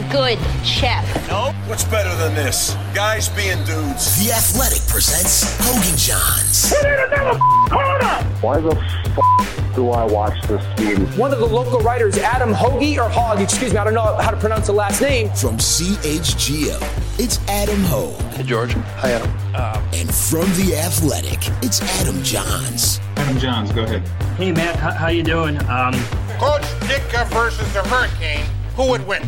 good chef. Nope. What's better than this? Guys being dudes. The Athletic presents Hogan Johns. We need another corner! Why the do I watch this game? One of the local writers, Adam Hoagie, or Hogg, excuse me, I don't know how to pronounce the last name. From CHGO, it's Adam Hogue. Hey, George. Hi, Adam. And from The Athletic, it's Adam Johns. Adam Johns, go ahead. Hey, Matt, how you doing? Coach Ditka versus the Hurricane, who would win?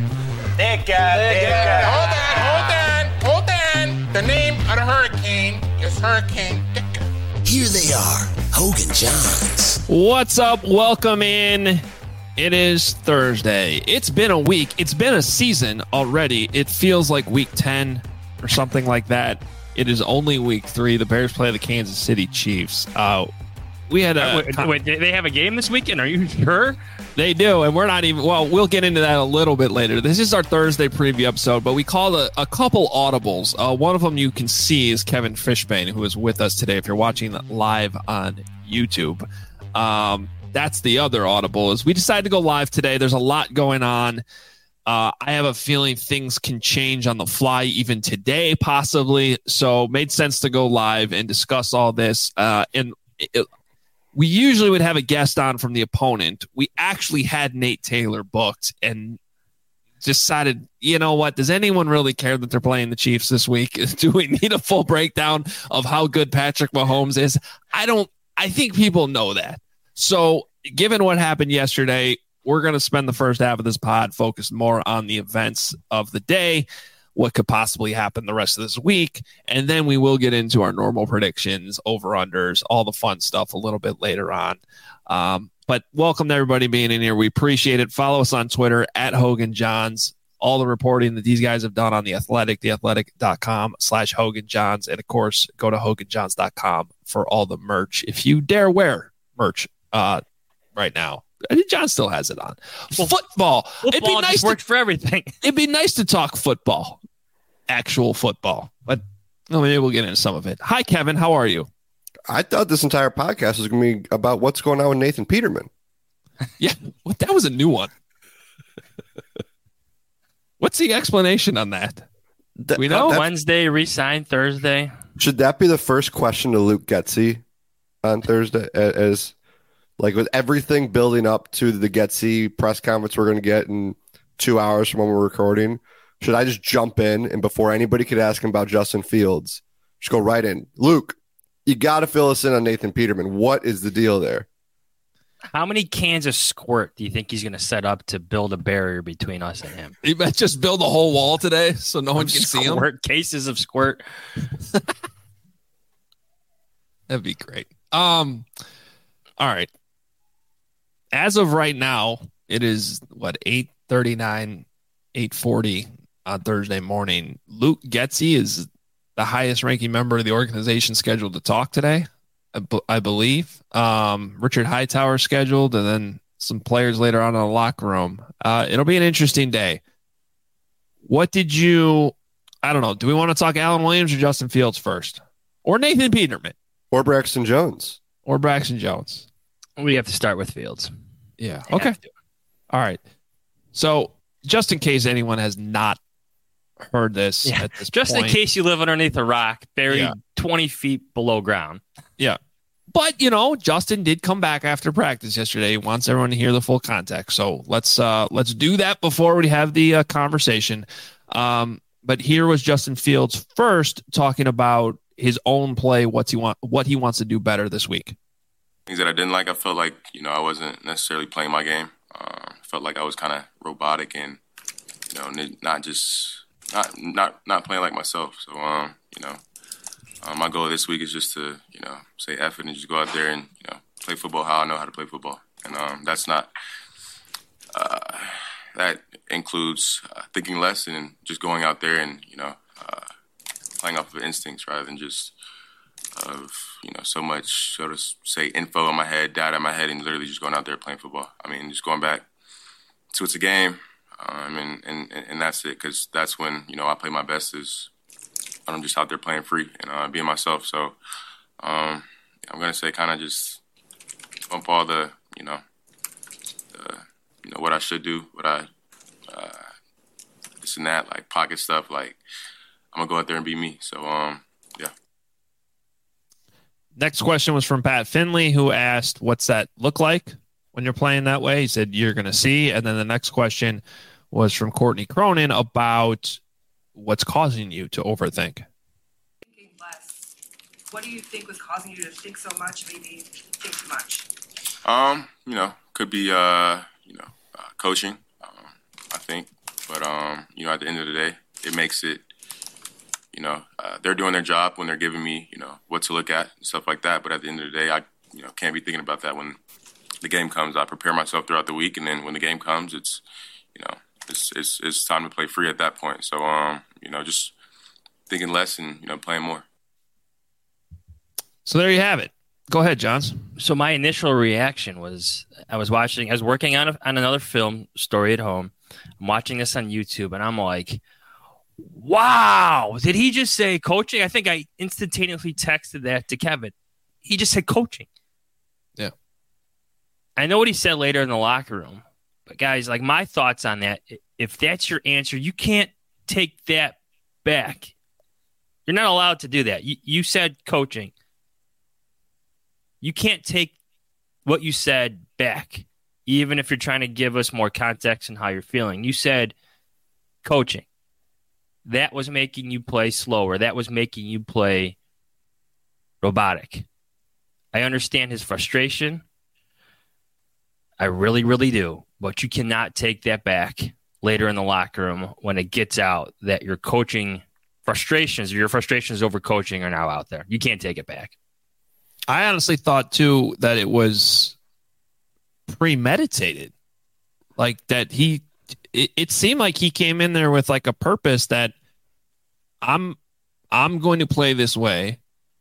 Ditka. Hold on. The name of the Hurricane is Hurricane Ditka. Here they are, Hogan Johns. What's up? Welcome in. It is Thursday. It's been a week. It's been a season already. It feels like week 10 or something like that. It is only week 3. The Bears play the Kansas City Chiefs. We had a wait. They have a game this weekend? Are you sure? They do, and we're not even. Well, we'll get into that a little bit later. This is our Thursday preview episode, but we called a couple audibles. One of them you can see is Kevin Fishbane, who is with us today. If you're watching live on YouTube, that's the other audible. Is we decided to go live today. There's a lot going on. I have a feeling things can change on the fly, even today, possibly. So, made sense to go live and discuss all this. We usually would have a guest on from the opponent. We actually had Nate Taylor booked and decided, you know what? Does anyone really care that they're playing the Chiefs this week? Do we need a full breakdown of how good Patrick Mahomes is? I think people know that. So given what happened yesterday, we're going to spend the first half of this pod focused more on the events of the day, what could possibly happen the rest of this week, and then we will get into our normal predictions, over-unders, all the fun stuff a little bit later on. But welcome to everybody being in here. We appreciate it. Follow us on Twitter at Hogan Johns. All the reporting that these guys have done on The Athletic, theathletic.com/Hogan Johns. And, of course, go to HoganJohns.com for all the merch. If you dare wear merch right now. I think John still has it on. Well, football. It'd be nice. Works for everything. It'd be nice to talk football, actual football. But maybe we'll get into some of it. Hi, Kevin. How are you? I thought this entire podcast was going to be about what's going on with Nathan Peterman. Yeah, that was a new one. What's the explanation on that? We know Wednesday, re-signed Thursday. Should that be the first question to Luke Getsy on Thursday? As like with everything building up to the Getsy press conference we're going to get in 2 hours from when we're recording, should I just jump in and before anybody could ask him about Justin Fields, just go right in? Luke, you got to fill us in on Nathan Peterman. What is the deal there? How many cans of squirt do you think he's going to set up to build a barrier between us and him? He might just build a whole wall today so no one can see him. Cases of squirt. That'd be great. All right. As of right now, it is, 8:39, 8:40 on Thursday morning. Luke Getsy is the highest-ranking member of the organization scheduled to talk today, I believe. Richard Hightower scheduled, and then some players later on in the locker room. It'll be an interesting day. I don't know, do we want to talk Alan Williams or Justin Fields first? Or Nathan Peterman? Or Braxton Jones? We have to start with Fields. Yeah. Okay. All right. So just in case anyone has not heard this at this just point, in case you live underneath a rock, buried 20 feet below ground. Yeah. But, Justin did come back after practice yesterday. He wants everyone to hear the full context. So let's do that before we have the conversation. But here was Justin Fields first talking about his own play, what he wants to do better this week. Things that I didn't like, I felt like, I wasn't necessarily playing my game. Felt like I was kind of robotic and, not playing like myself. So, my goal this week is just to, say F it and just go out there and, play football how I know how to play football. And that's not, that includes thinking less and just going out there and, playing off of instincts rather than just so much, so to say, info in my head, data in my head, and literally just going out there playing football. I mean, just going back to it's a game, and that's it, because that's when, I play my best is I'm just out there playing free and being myself. So I'm going to say kind of just bump all the, what I should do, what I this and that, like pocket stuff, like I'm gonna go out there and be me. So yeah. Next question was from Pat Finley, who asked, what's that look like when you're playing that way? He said, you're going to see. And then the next question was from Courtney Cronin about what's causing you to overthink. Thinking less. What do you think was causing you to think so much, maybe think too much? Could be, coaching, I think. But, at the end of the day, it makes it, they're doing their job when they're giving me, what to look at and stuff like that. But at the end of the day, I, can't be thinking about that when the game comes. I prepare myself throughout the week, and then when the game comes, it's, it's time to play free at that point. So, just thinking less and, playing more. So there you have it. Go ahead, Johns. So my initial reaction was I was working on another film story at home. I'm watching this on YouTube, and I'm like, wow, did he just say coaching? I think I instantaneously texted that to Kevin. He just said coaching. Yeah. I know what he said later in the locker room, but guys, like my thoughts on that, if that's your answer, you can't take that back. You're not allowed to do that. You said coaching. You can't take what you said back, even if you're trying to give us more context in how you're feeling. You said coaching. That was making you play slower. That was making you play robotic. I understand his frustration. I really, really do. But you cannot take that back later in the locker room when it gets out that your coaching frustrations or your frustrations over coaching are now out there. You can't take it back. I honestly thought, too, that it was premeditated. Like that it seemed like he came in there with like a purpose that I'm going to play this way.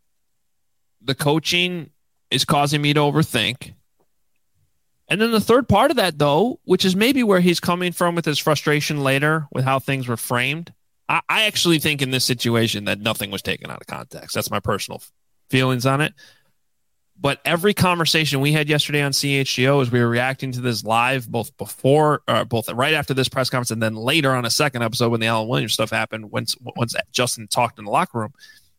The coaching is causing me to overthink. And then the third part of that, though, which is maybe where he's coming from with his frustration later with how things were framed. I actually think in this situation that nothing was taken out of context. That's my personal feelings on it. But every conversation we had yesterday on CHGO as we were reacting to this live, both right after this press conference and then later on a second episode when the Alan Williams stuff happened, once Justin talked in the locker room,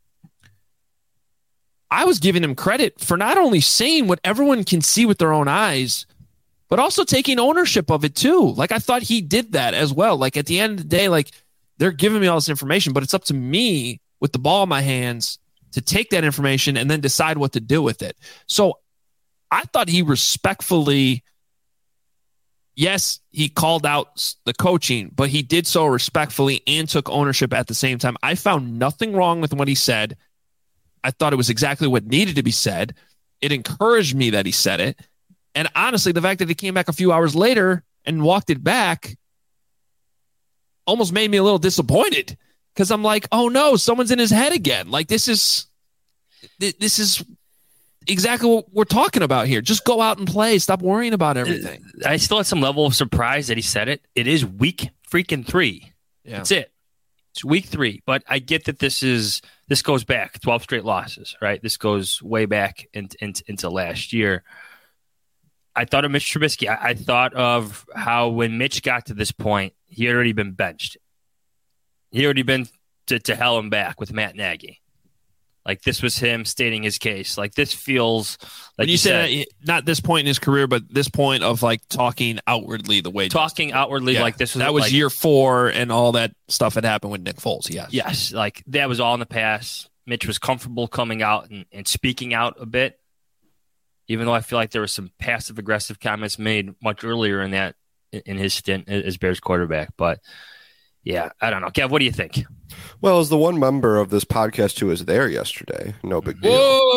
I was giving him credit for not only saying what everyone can see with their own eyes, but also taking ownership of it too. Like I thought he did that as well. Like at the end of the day, like they're giving me all this information, but it's up to me with the ball in my hands to take that information and then decide what to do with it. So I thought he respectfully, yes, he called out the coaching, but he did so respectfully and took ownership at the same time. I found nothing wrong with what he said. I thought it was exactly what needed to be said. It encouraged me that he said it. And honestly, the fact that he came back a few hours later and walked it back almost made me a little disappointed. Because I'm like, oh no, someone's in his head again. Like this is exactly what we're talking about here. Just go out and play. Stop worrying about everything. I still had some level of surprise that he said it. It is week freaking 3. Yeah. That's it. It's week 3. But I get that this goes back 12 straight losses, right? This goes way back into last year. I thought of Mitch Trubisky. I thought of how when Mitch got to this point, he had already been benched. He had already been to hell and back with Matt Nagy. Like this was him stating his case. Like this feels like when you said not this point in his career, but this point of like talking outwardly the way like this was that was like, year 4 and all that stuff had happened with Nick Foles. Yes, like that was all in the past. Mitch was comfortable coming out and speaking out a bit, even though I feel like there were some passive aggressive comments made much earlier in his stint as Bears quarterback, but. Yeah, I don't know. Kev, what do you think? Well, as the one member of this podcast who was there yesterday, no big deal.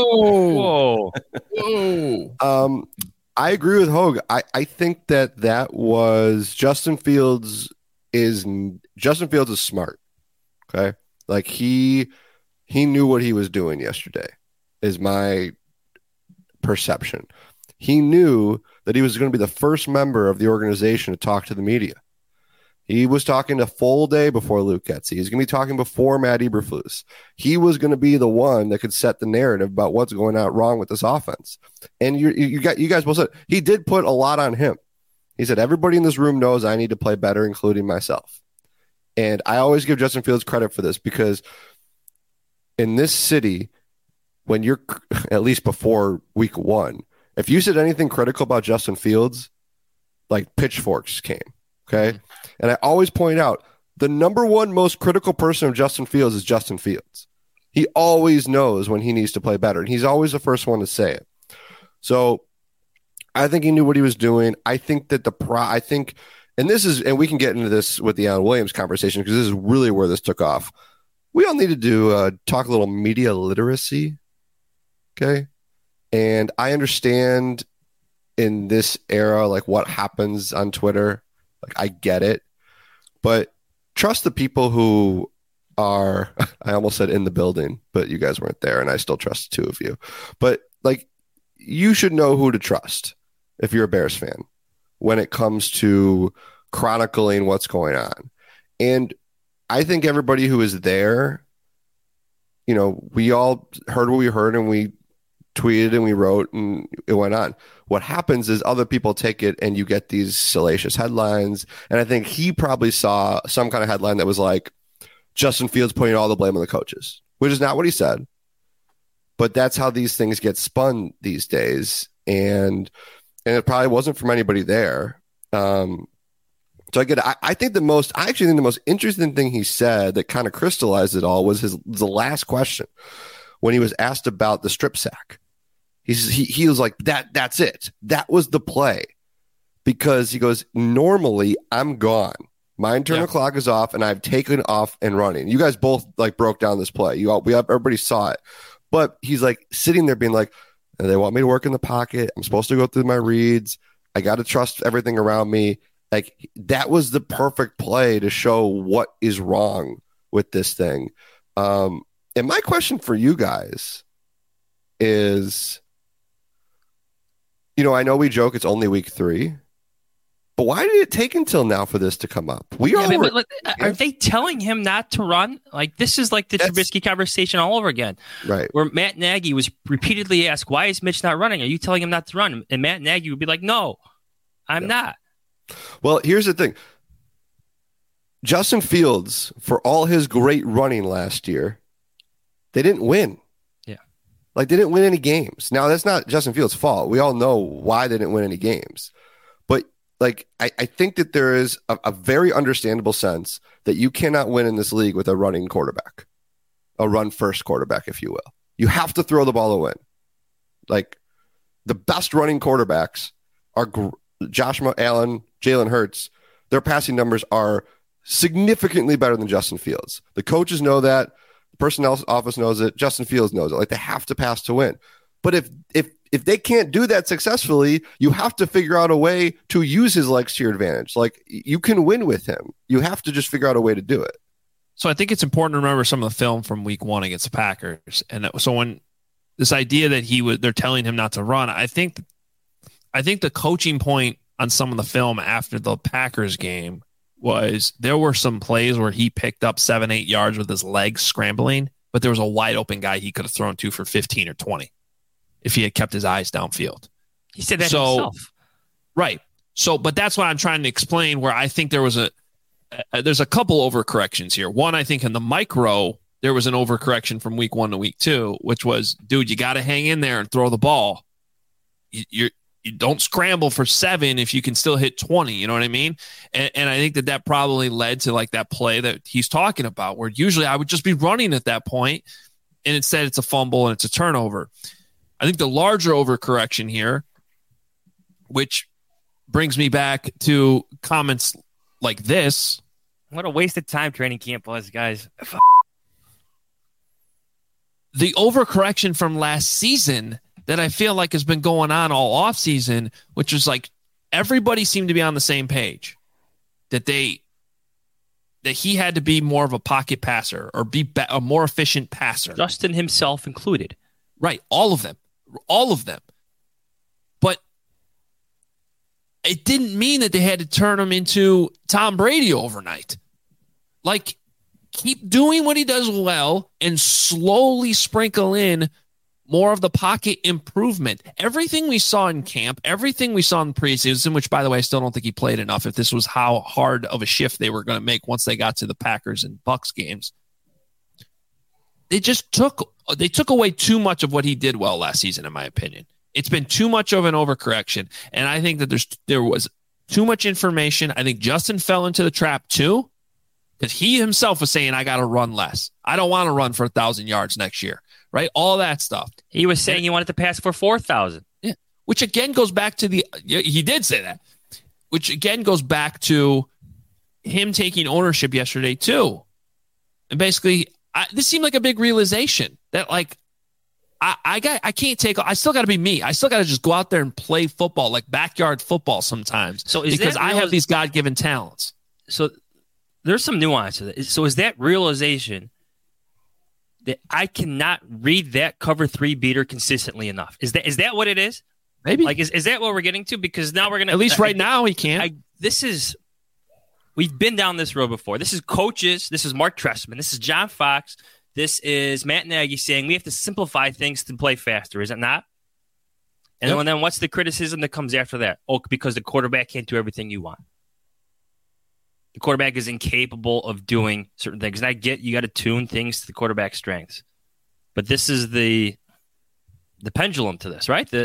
Whoa. I agree with Hogue. I think that was Justin Fields is smart. Okay, like he knew what he was doing yesterday. Is my perception. He knew that he was going to be the first member of the organization to talk to the media. He was talking a full day before Luke Getsy. He's going to be talking before Matt Eberflus. He was going to be the one that could set the narrative about what's going on wrong with this offense. And you guys both said he did put a lot on him. He said, everybody in this room knows I need to play better, including myself. And I always give Justin Fields credit for this because in this city, when you're at least before week 1, if you said anything critical about Justin Fields, like pitchforks came. Okay. And I always point out the number one most critical person of Justin Fields is Justin Fields. He always knows when he needs to play better, and he's always the first one to say it. So I think he knew what he was doing. I think that and we can get into this with the Alan Williams conversation because this is really where this took off. We all needed to talk a little media literacy. Okay. And I understand in this era, like what happens on Twitter, like I get it, but trust the people who are, I almost said in the building, but you guys weren't there and I still trust 2 of you, but like you should know who to trust if you're a Bears fan when it comes to chronicling what's going on. And I think everybody who is there, we all heard what we heard and we tweeted and we wrote and it went on. What happens is other people take it and you get these salacious headlines. And I think he probably saw some kind of headline that was like Justin Fields putting all the blame on the coaches, which is not what he said. But that's how these things get spun these days. And it probably wasn't from anybody there. So I think the most interesting thing he said that kind of crystallized it all was the last question when he was asked about the strip sack. He was like, that's it. That was the play. Because he goes, normally I'm gone. My internal clock is off and I've taken off and running. You guys both like broke down this play. Everybody saw it. But he's like sitting there being like, they want me to work in the pocket. I'm supposed to go through my reads. I got to trust everything around me. Like that was the perfect play to show what is wrong with this thing. And my question for you guys is, I know we joke it's only week 3, but why did it take until now for this to come up? Are they telling him not to run? Like this is like the Trubisky conversation all over again, right? Where Matt Nagy was repeatedly asked, "Why is Mitch not running? Are you telling him not to run?" And Matt Nagy would be like, "No, I'm not." Well, here's the thing: Justin Fields, for all his great running last year, they didn't win. Like they didn't win any games. Now that's not Justin Fields' fault. We all know why they didn't win any games. But like I think that there is a very understandable sense that you cannot win in this league with a running quarterback, a run first quarterback, if you will. You have to throw the ball to win. Like the best running quarterbacks are Josh Allen, Jalen Hurts. Their passing numbers are significantly better than Justin Fields. The coaches know that. Personnel office knows it. Justin Fields knows it. Like they have to pass to win. But if they can't do that successfully, you have to figure out a way to use his legs to your advantage. Like you can win with him. You have to just figure out a way to do it. So I think it's important to remember some of the film from week 1 against the Packers. And so when this idea that they're telling him not to run, I think the coaching point on some of the film after the Packers game was there were some plays where he picked up 7-8 yards with his legs scrambling, but there was a wide open guy he could have thrown to for 15 or 20 if he had kept his eyes downfield. He said that himself. Right. So, but that's what I'm trying to explain where I think there was there's a couple overcorrections here. One, I think in the micro, there was an overcorrection from week 1 to week 2, which was, dude, you got to hang in there and throw the ball. You don't scramble for 7 if you can still hit 20. You know what I mean? And I think that probably led to like that play that he's talking about, where usually I would just be running at that point, and instead it's a fumble and it's a turnover. I think the larger overcorrection here, which brings me back to comments like this. What a waste of time training camp was, guys. The overcorrection from last season that I feel like has been going on all offseason, which was like everybody seemed to be on the same page that he had to be more of a pocket passer or be a more efficient passer. Justin himself included. Right. All of them. But it didn't mean that they had to turn him into Tom Brady overnight. Like, keep doing what he does well and slowly sprinkle in more of the pocket improvement. Everything we saw in camp, everything we saw in preseason, which, by the way, I still don't think he played enough if this was how hard of a shift they were going to make once they got to the Packers and Bucs games. They took away too much of what he did well last season, in my opinion. It's been too much of an overcorrection, and I think that there was too much information. I think Justin fell into the trap too, because he himself was saying, I got to run less. I don't want to run for 1,000 yards next year, right? All that stuff. He was saying he wanted to pass for 4,000. Yeah, which again goes back to he did say that, which again goes back to him taking ownership yesterday too. And basically, this seemed like a big realization that like, I still got to be me. I still got to just go out there and play football, like backyard football sometimes. So because I have these God-given talents. So there's some nuance to that. So is that realization that I cannot read that cover 3 beater consistently enough? Is that what it is? Maybe. Like, is that what we're getting to? Because now we're going to, at least right now he can't. We've been down this road before. This is coaches. This is Mark Trestman. This is John Fox. This is Matt Nagy saying we have to simplify things to play faster, is it not? And then what's the criticism that comes after that? Oh, because the quarterback can't do everything you want. The quarterback is incapable of doing certain things. And I get you got to tune things to the quarterback's strengths. But this is the pendulum to this, right?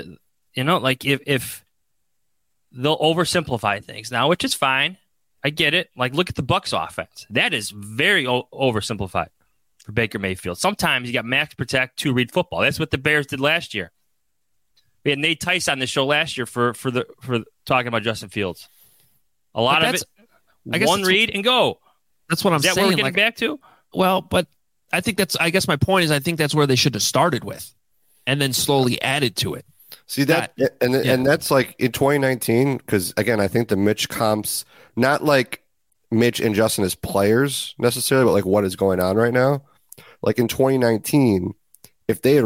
If they'll oversimplify things now, which is fine. I get it. Like, look at the Bucs offense. That is very oversimplified for Baker Mayfield. Sometimes you got max protect, 2 read football. That's what the Bears did last year. We had Nate Tice on the show last year for talking about Justin Fields. A lot of it, one read and go. That's what I'm saying. Is that what we're getting back to? Well, but I think I guess my point is I think that's where they should have started with and then slowly added to it. See that, and that's like in 2019, because again, I think the Mitch comps, not like Mitch and Justin as players necessarily, but like what is going on right now. Like in 2019, if they had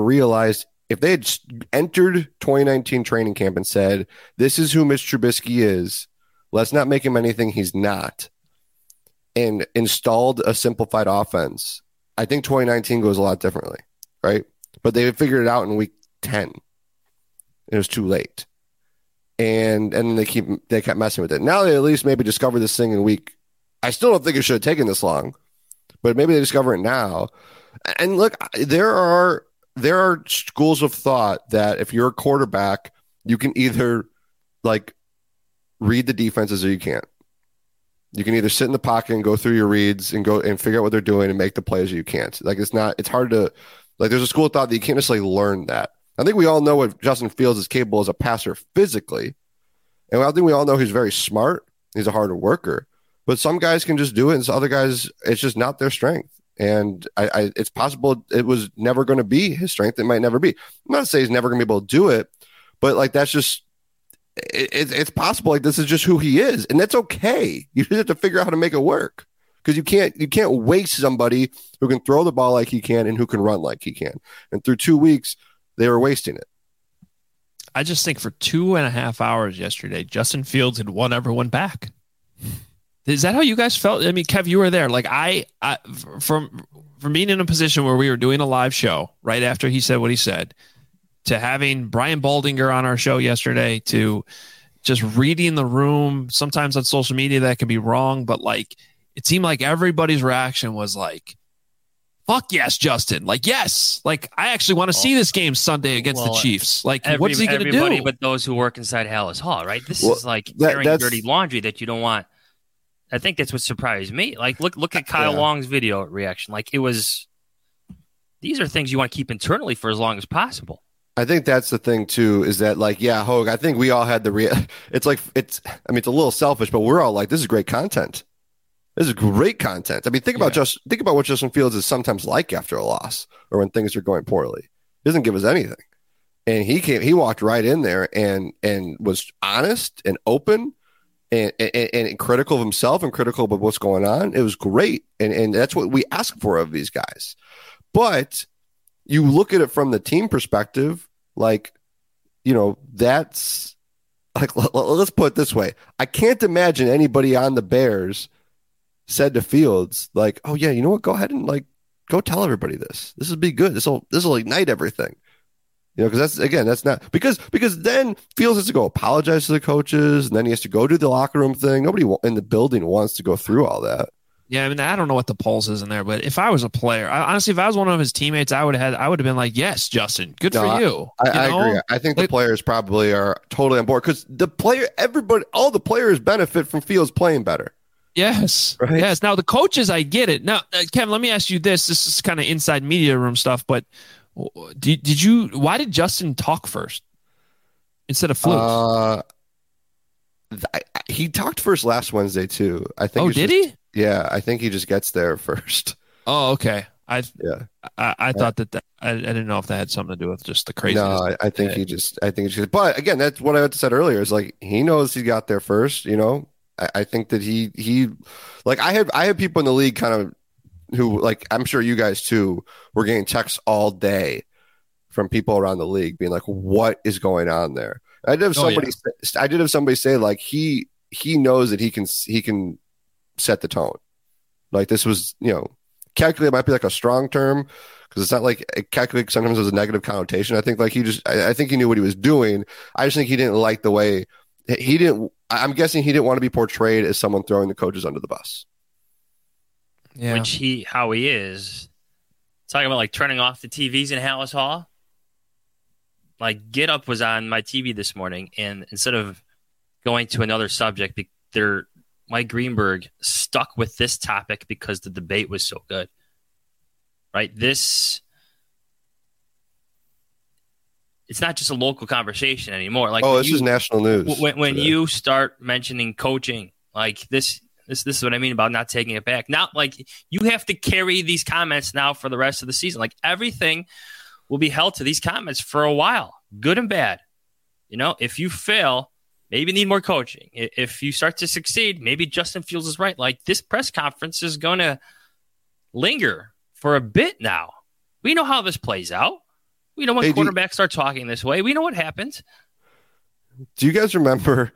entered 2019 training camp and said, this is who Mitch Trubisky is, let's not make him anything he's not, and installed a simplified offense, I think 2019 goes a lot differently, right? But they figured it out in week 10. It was too late. And they kept messing with it. Now they at least maybe discover this thing in week. I still don't think it should have taken this long, but maybe they discover it now. And look, there are schools of thought that if you're a quarterback, you can either like read the defenses or you can't. You can either sit in the pocket and go through your reads and go and figure out what they're doing and make the plays, or you can't. Like it's hard to, like, there's a school of thought that you can't necessarily learn that. I think we all know what Justin Fields is capable as a passer physically. And I think we all know he's very smart. He's a harder worker. But some guys can just do it, and some other guys, it's just not their strength. And it's possible it was never going to be his strength. It might never be. I'm not to say he's never going to be able to do it, but like that's just it's possible. Like this is just who he is, and that's okay. You just have to figure out how to make it work, because you can't waste somebody who can throw the ball like he can and who can run like he can. And through 2 weeks, they were wasting it. I just think for 2.5 hours yesterday, Justin Fields had won everyone back. Is that how you guys felt? I mean, Kev, you were there. Like I from being in a position where we were doing a live show right after he said what he said, to having Brian Baldinger on our show yesterday, to just reading the room. Sometimes on social media that can be wrong, but like it seemed like everybody's reaction was like, fuck yes, Justin. Like, yes. Like, I actually want to see this game Sunday against the Chiefs. Like, what's he going to do? Everybody but those who work inside Hallis Hall, right? This is like carrying dirty laundry that you don't want. I think that's what surprised me. Like, look at Kyle Long's video reaction. Like, these are things you want to keep internally for as long as possible. I think that's the thing too, is that like, yeah, Hogue, I think we all had it's a little selfish, but we're all like, this is great content. This is great content. I mean, think about what Justin Fields is sometimes like after a loss or when things are going poorly. He doesn't give us anything. And he walked right in there and was honest and open and critical of himself and critical of what's going on. It was great. And that's what we ask for of these guys. But you look at it from the team perspective, like, you know, that's like, let's put it this way. I can't imagine anybody on the Bears said to Fields, like, oh yeah, you know what? Go ahead and like, go tell everybody this. This will be good. This will ignite everything. You know, because that's not because then Fields has to go apologize to the coaches, and then he has to go do the locker room thing. Nobody in the building wants to go through all that. Yeah, I mean, I don't know what the pulse is in there, but if I was a player, honestly, if I was one of his teammates, I would have been like, "Yes, Justin, good for you." I agree. I think the players probably are totally on board because all the players benefit from Fields playing better. Yes. Right? Yes. Now the coaches, I get it. Now, Kevin, let me ask you this. This is kind of inside media room stuff, but why did Justin talk first instead of Flukes? He talked first last Wednesday too. I think. Oh, did he? Yeah, I think he just gets there first. Oh, okay. I thought that I didn't know if that had something to do with just the craziness. No, I think he just. But again, that's what I said earlier. Is like he knows he got there first. You know, I think that he like I have people in the league kind of who, like, I'm sure you guys too were getting texts all day from people around the league being like, what is going on there? I did have somebody say like he knows that he can set the tone. Like this was, you know, calculate might be like a strong term because it's not like calculate sometimes has a negative connotation. I think like I think he knew what he was doing. I just think he didn't like the way I'm guessing he didn't want to be portrayed as someone throwing the coaches under the bus. Yeah. Which how he is. Talking about like turning off the TVs in Hallis Hall. Like Get Up was on my TV this morning, and instead of going to another subject, Mike Greenberg stuck with this topic because the debate was so good. Right? It's not just a local conversation anymore. Like, this is national news. When you start mentioning coaching, like this is what I mean about not taking it back. Not like you have to carry these comments now for the rest of the season. Like everything will be held to these comments for a while, good and bad. You know, if you fail, maybe you need more coaching. If you start to succeed, maybe Justin Fields is right. Like this press conference is going to linger for a bit now. We know how this plays out. We know when quarterbacks start talking this way. We know what happens. Do you guys remember?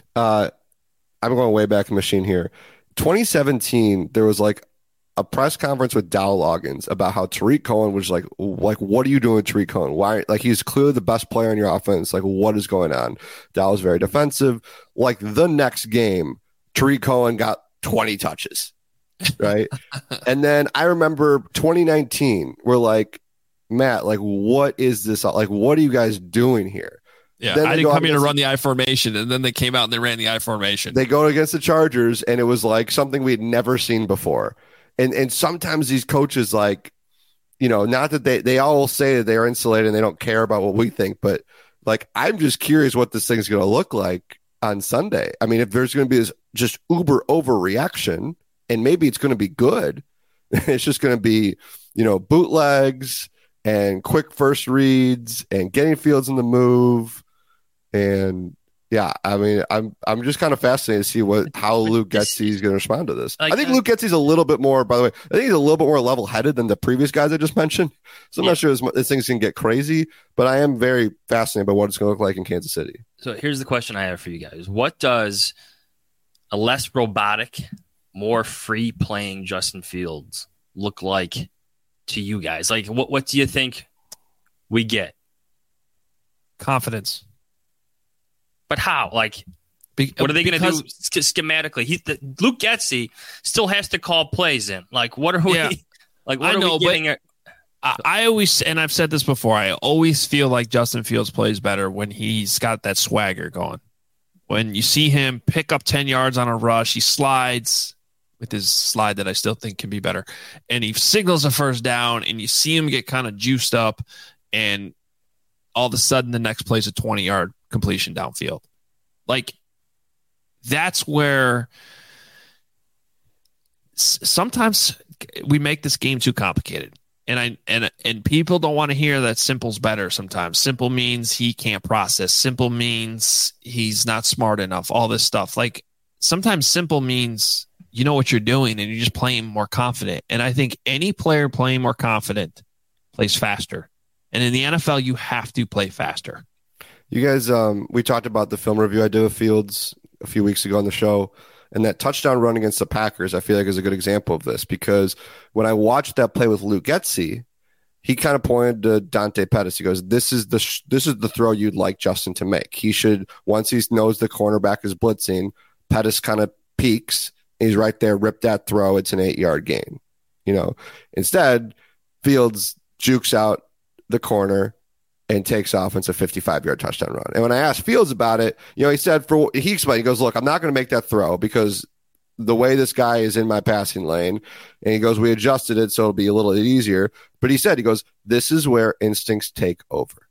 I'm going way back in the machine here. 2017, there was like a press conference with Dow Loggins about how Tariq Cohen was like, what are you doing with Tariq Cohen? Why? Like, he's clearly the best player in your offense. Like, what is going on? Dow was very defensive. Like, the next game, Tariq Cohen got 20 touches, right? And then I remember 2019, we're like, Matt, like, what is this? Like, what are you guys doing here? Yeah, I didn't come here to run the I formation, and then they came out and they ran the I formation. They go against the Chargers, and it was like something we had never seen before. And sometimes these coaches, like, you know, not that they all say that they are insulated and they don't care about what we think, but like, I'm just curious what this thing's going to look like on Sunday. I mean, if there's going to be this just uber overreaction, and maybe it's going to be good, it's just going to be, you know, bootlegs and quick first reads and getting Fields in the move. And yeah, I mean, I'm just kind of fascinated to see how Luke Getsy is going to respond to this. I think Luke Getsy's a little bit more, by the way, I think he's a little bit more level-headed than the previous guys I just mentioned. So I'm not sure this thing's going to get crazy, but I am very fascinated by what it's going to look like in Kansas City. So here's the question I have for you guys. What does a less robotic, more free-playing Justin Fields look like to you guys? Like, what do you think we get? Confidence. But how? Like, what are they going to do schematically? Luke Getsy still has to call plays in. Like, what are we? Yeah. Like, what are we getting? I always, and I've said this before, I always feel like Justin Fields plays better when he's got that swagger going. When you see him pick up 10 yards on a rush, he slides with his slide that I still think can be better, and he signals a first down, and you see him get kind of juiced up, and all of a sudden the next play is a 20-yard completion downfield. Like, that's where sometimes we make this game too complicated. And people don't want to hear that simple's better sometimes. Simple means he can't process. Simple means he's not smart enough. All this stuff. Like, sometimes simple means you know what you're doing and you're just playing more confident. And I think any player playing more confident plays faster. And in the NFL, you have to play faster. You guys, we talked about the film review I did with Fields a few weeks ago on the show, and that touchdown run against the Packers, I feel like is a good example of this, because when I watched that play with Luke Getsy, he kind of pointed to Dante Pettis. He goes, "This is the throw you'd like Justin to make. He should, once he knows the cornerback is blitzing, Pettis kind of peeks. He's right there. Rip that throw. It's an 8-yard gain. Instead, Fields jukes out the corner and takes off. And it's a 55-yard touchdown run. And when I asked Fields about it, he said he explained. He goes, "Look, I'm not going to make that throw because the way this guy is in my passing lane." And he goes, "We adjusted it so it'll be a little easier." But he goes, "This is where instincts take over."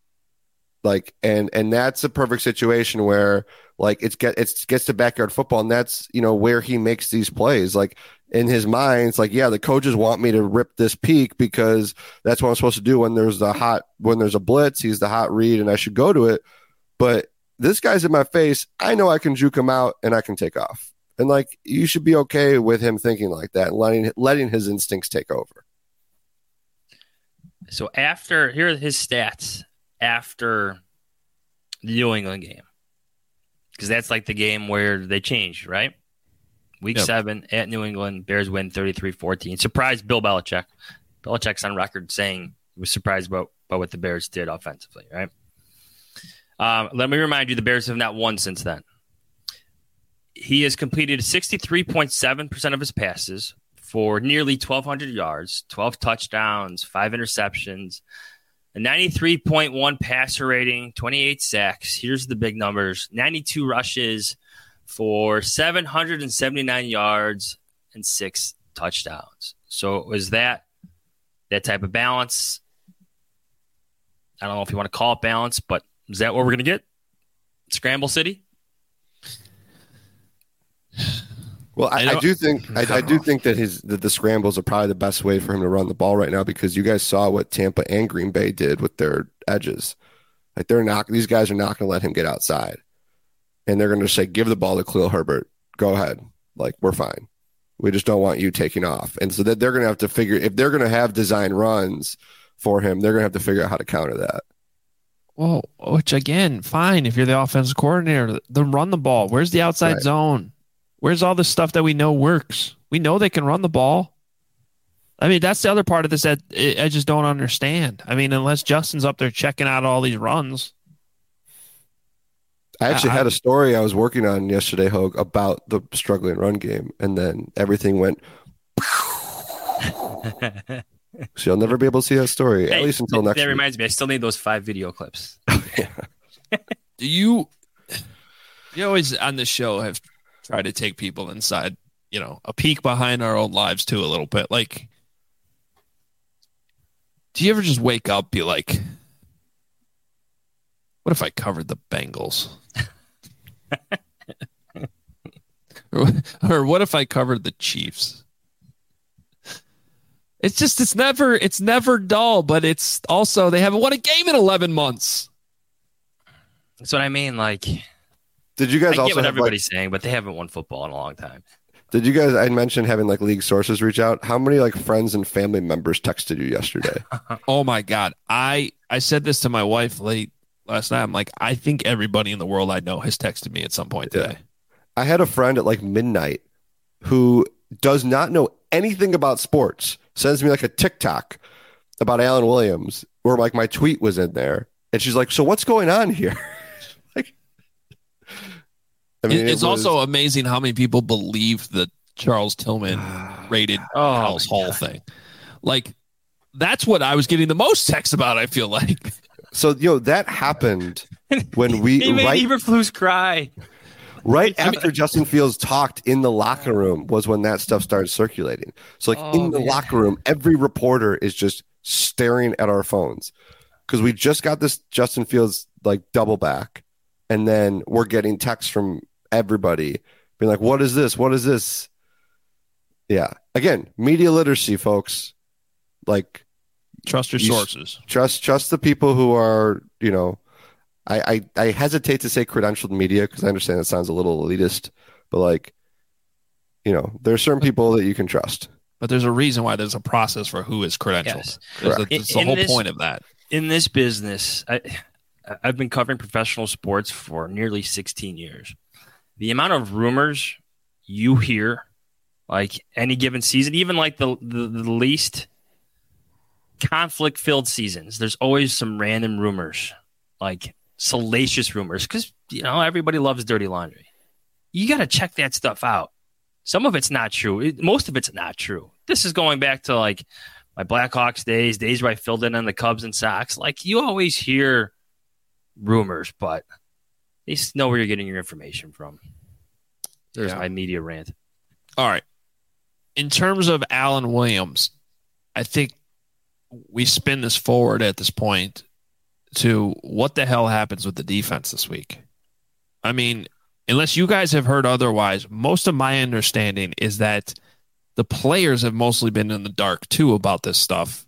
And that's a perfect situation where it gets to backyard football, and that's where he makes these plays. In his mind, it's yeah, the coaches want me to rip this peak because that's what I'm supposed to do when there's a blitz. He's the hot read, and I should go to it. But this guy's in my face. I know I can juke him out, and I can take off. And you should be okay with him thinking like that and letting his instincts take over. So here are his stats after the New England game, because that's the game where they changed, right? Week 7 at New England, Bears win 33-14. Surprised Bill Belichick. Belichick's on record saying he was surprised about what the Bears did offensively, right? Let me remind you, the Bears have not won since then. He has completed 63.7% of his passes for nearly 1,200 yards, 12 touchdowns, 5 interceptions, a 93.1 passer rating, 28 sacks. Here's the big numbers: 92 rushes for 779 yards and 6 touchdowns. So was that type of balance? I don't know if you want to call it balance, but is that what we're going to get? Scramble City? Well, I do think that the scrambles are probably the best way for him to run the ball right now, because you guys saw what Tampa and Green Bay did with their edges. These guys are not going to let him get outside. And they're going to say, "Give the ball to Khalil Herbert. Go ahead. We're fine. We just don't want you taking off." And so that they're going to have to figure, if they're going to have design runs for him, they're going to have to figure out how to counter that. Well, which again, fine. If you're the offensive coordinator, then run the ball. Where's the outside zone? Where's all the stuff that we know works? We know they can run the ball. I mean, that's the other part of this that I just don't understand. I mean, unless Justin's up there checking out all these runs. I actually had a story I was working on yesterday, Hogue, about the struggling run game, and then everything went. So you'll never be able to see that story, at least until next week. That reminds me, I still need those 5 video clips. Do you always on the show have tried to take people inside, a peek behind our own lives too, a little bit? Do you ever just wake up, be like, what if I covered the Bengals? or what if I covered the Chiefs? It's never dull, but it's also, they haven't won a game in 11 months. That's what I mean. Did you guys I also get what have, everybody's saying, but they haven't won football in a long time. Did you guys, I mentioned having league sources reach out. How many friends and family members texted you yesterday? Oh my God. I said this to my wife late last night. I'm like, I think everybody in the world I know has texted me at some point today. I had a friend at midnight who does not know anything about sports, sends me a TikTok about Alan Williams where my tweet was in there. And she's like, "So what's going on here?" It's also amazing how many people believe the Charles Tillman rated House Hall thing. That's what I was getting the most text about, I feel like. So, that happened when we he made Eberflus cry. Right after Justin Fields talked in the locker room was when that stuff started circulating. So in the locker room, every reporter is just staring at our phones because we just got this Justin Fields double back. And then we're getting texts from everybody being like, "What is this? What is this?" Yeah. Again, media literacy, folks. Trust your sources. Trust the people who are, I hesitate to say credentialed media because I understand it sounds a little elitist, but there are certain people that you can trust. But there's a reason why there's a process for who is credentialed. Yes. It's the whole point of that. In this business, I've been covering professional sports for nearly 16 years. The amount of rumors you hear, any given season, even the least conflict-filled seasons, there's always some random rumors, like salacious rumors, because everybody loves dirty laundry. You got to check that stuff out. Some of it's not true. Most of it's not true. This is going back to like my Blackhawks days where I filled in on the Cubs and Sox. Like, you always hear rumors, but at least know where you're getting your information from. There's my media rant. All right. In terms of Alan Williams, I think we spin this forward at this point to what the hell happens with the defense this week. I mean, unless you guys have heard otherwise, most of my understanding is that the players have mostly been in the dark too about this stuff.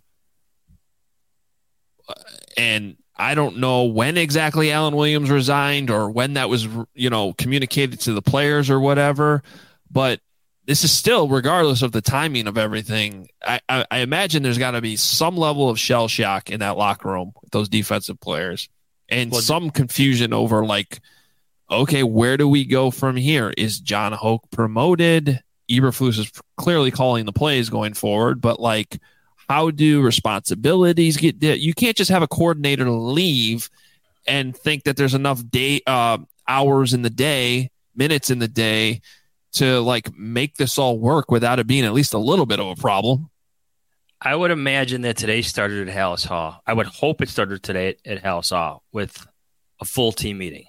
And I don't know when exactly Alan Williams resigned or when that was, communicated to the players or whatever. But this is still, regardless of the timing of everything, I imagine there's got to be some level of shell shock in that locker room with those defensive players and some confusion over like, okay, where do we go from here? Is John Hoke promoted? Eberflus is clearly calling the plays going forward, but like, how do responsibilities get? You can't just have a coordinator leave and think that there's enough hours in the day, minutes in the day to like make this all work without it being at least a little bit of a problem. I would imagine that today started at Halas Hall. I would hope it started today at Halas Hall with a full team meeting.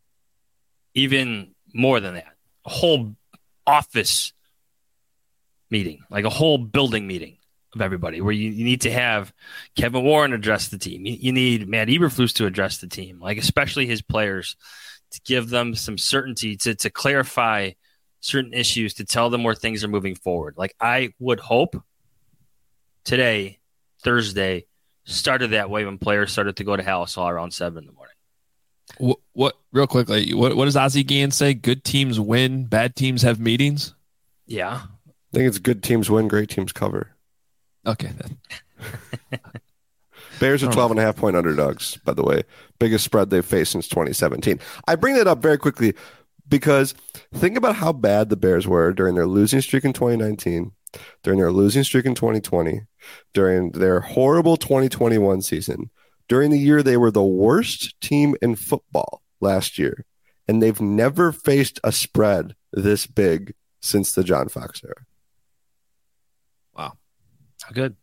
Even more than that, a whole office meeting, like a whole building meeting of everybody, where you need to have Kevin Warren address the team. You need Matt Eberflus to address the team, like especially his players, to give them some certainty, to clarify certain issues, to tell them where things are moving forward. Like, I would hope today, Thursday, started that way when players started to go to Halas Hall around 7 in the morning. What real quickly, what does Ozzie Guillen say? Good teams win, bad teams have meetings? Yeah. I think it's good teams win, great teams cover. Okay, then. Bears are 12.5 point underdogs, by the way. Biggest spread they've faced since 2017. I bring that up very quickly because think about how bad the Bears were during their losing streak in 2019, during their losing streak in 2020, during their horrible 2021 season, during the year they were the worst team in football last year, and they've never faced a spread this big since the John Fox era. Wow. Good.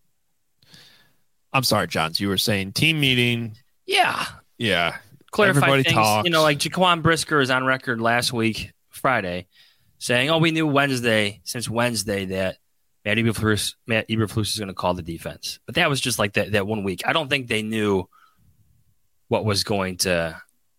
I'm sorry, Johns. You were saying team meeting. Yeah. Clarify Everybody things. talks. Like Jaquan Brisker is on record last week, Friday, saying, we knew since Wednesday that Matt Eberflus is going to call the defense. But that was just like that 1 week. I don't think they knew what was going to,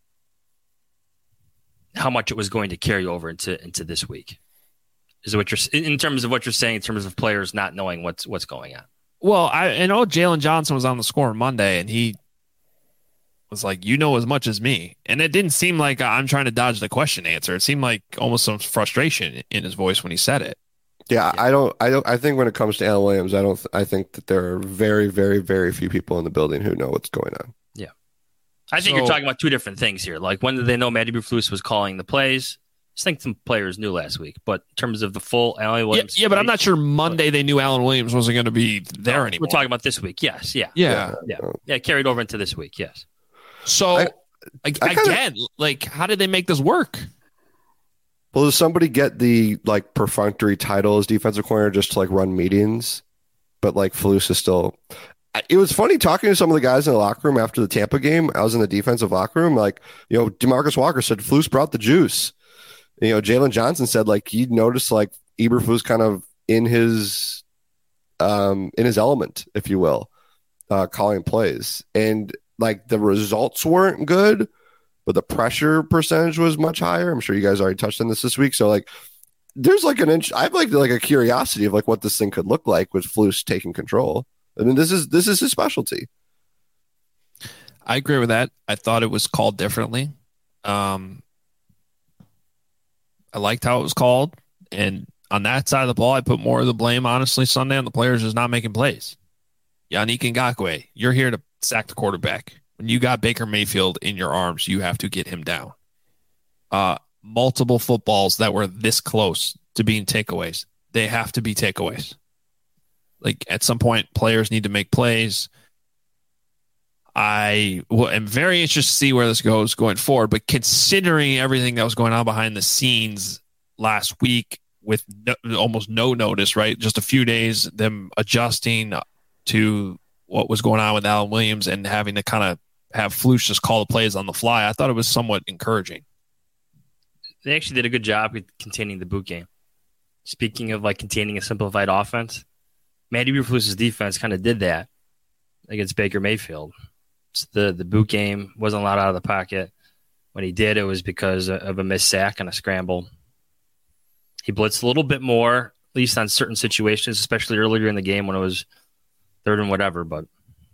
how much it was going to carry over into this week. Is what you're in terms of what you're saying in terms of players not knowing what's going on. Well, I know Jalen Johnson was on the score Monday, and he was like, "You know as much as me," and it didn't seem like I'm trying to dodge the question answer. It seemed like almost some frustration in his voice when he said it. Yeah, I think when it comes to Alan Williams, I think that there are very, very, very few people in the building who know what's going on. Yeah. I think you're talking about two different things here. Like, when did they know Matt Eberflus was calling the plays? I think some players knew last week, but in terms of the full Alan Williams. Yeah, but I'm not sure Monday they knew Alan Williams wasn't going to be there anymore. We're talking about this week. Yes. Yeah. Yeah. Carried over into this week. Yes. So again, how did they make this work? Well, does somebody get the perfunctory title as defensive coordinator just to run meetings? But Flus is still. It was funny talking to some of the guys in the locker room after the Tampa game. I was in the defensive locker room. DeMarcus Walker said Flus brought the juice. Jalen Johnson said he noticed Eberflus kind of in his element, if you will, calling plays, and the results weren't good, but the pressure percentage was much higher. I'm sure you guys already touched on this week. So there's an inch. I've a curiosity of what this thing could look like with Flus taking control. I mean, this is his specialty. I agree with that. I thought it was called differently. I liked how it was called. And on that side of the ball, I put more of the blame, honestly, Sunday on the players just not making plays. Yannick Ngakoue, you're here to sack the quarterback. When you got Baker Mayfield in your arms, you have to get him down. Multiple footballs that were this close to being takeaways. They have to be takeaways. At some point, players need to make plays. I am very interested to see where this goes going forward. But considering everything that was going on behind the scenes last week with almost no notice, right? Just a few days, them adjusting to what was going on with Alan Williams and having to kind of have Flus just call the plays on the fly. I thought it was somewhat encouraging. They actually did a good job with containing the boot game. Speaking of like containing a simplified offense, Matty Eberflus's defense kind of did that against Baker Mayfield. So the boot game wasn't allowed out of the pocket. When he did, it was because of a missed sack and a scramble. He blitzed a little bit more, at least on certain situations, especially earlier in the game when it was third and whatever. But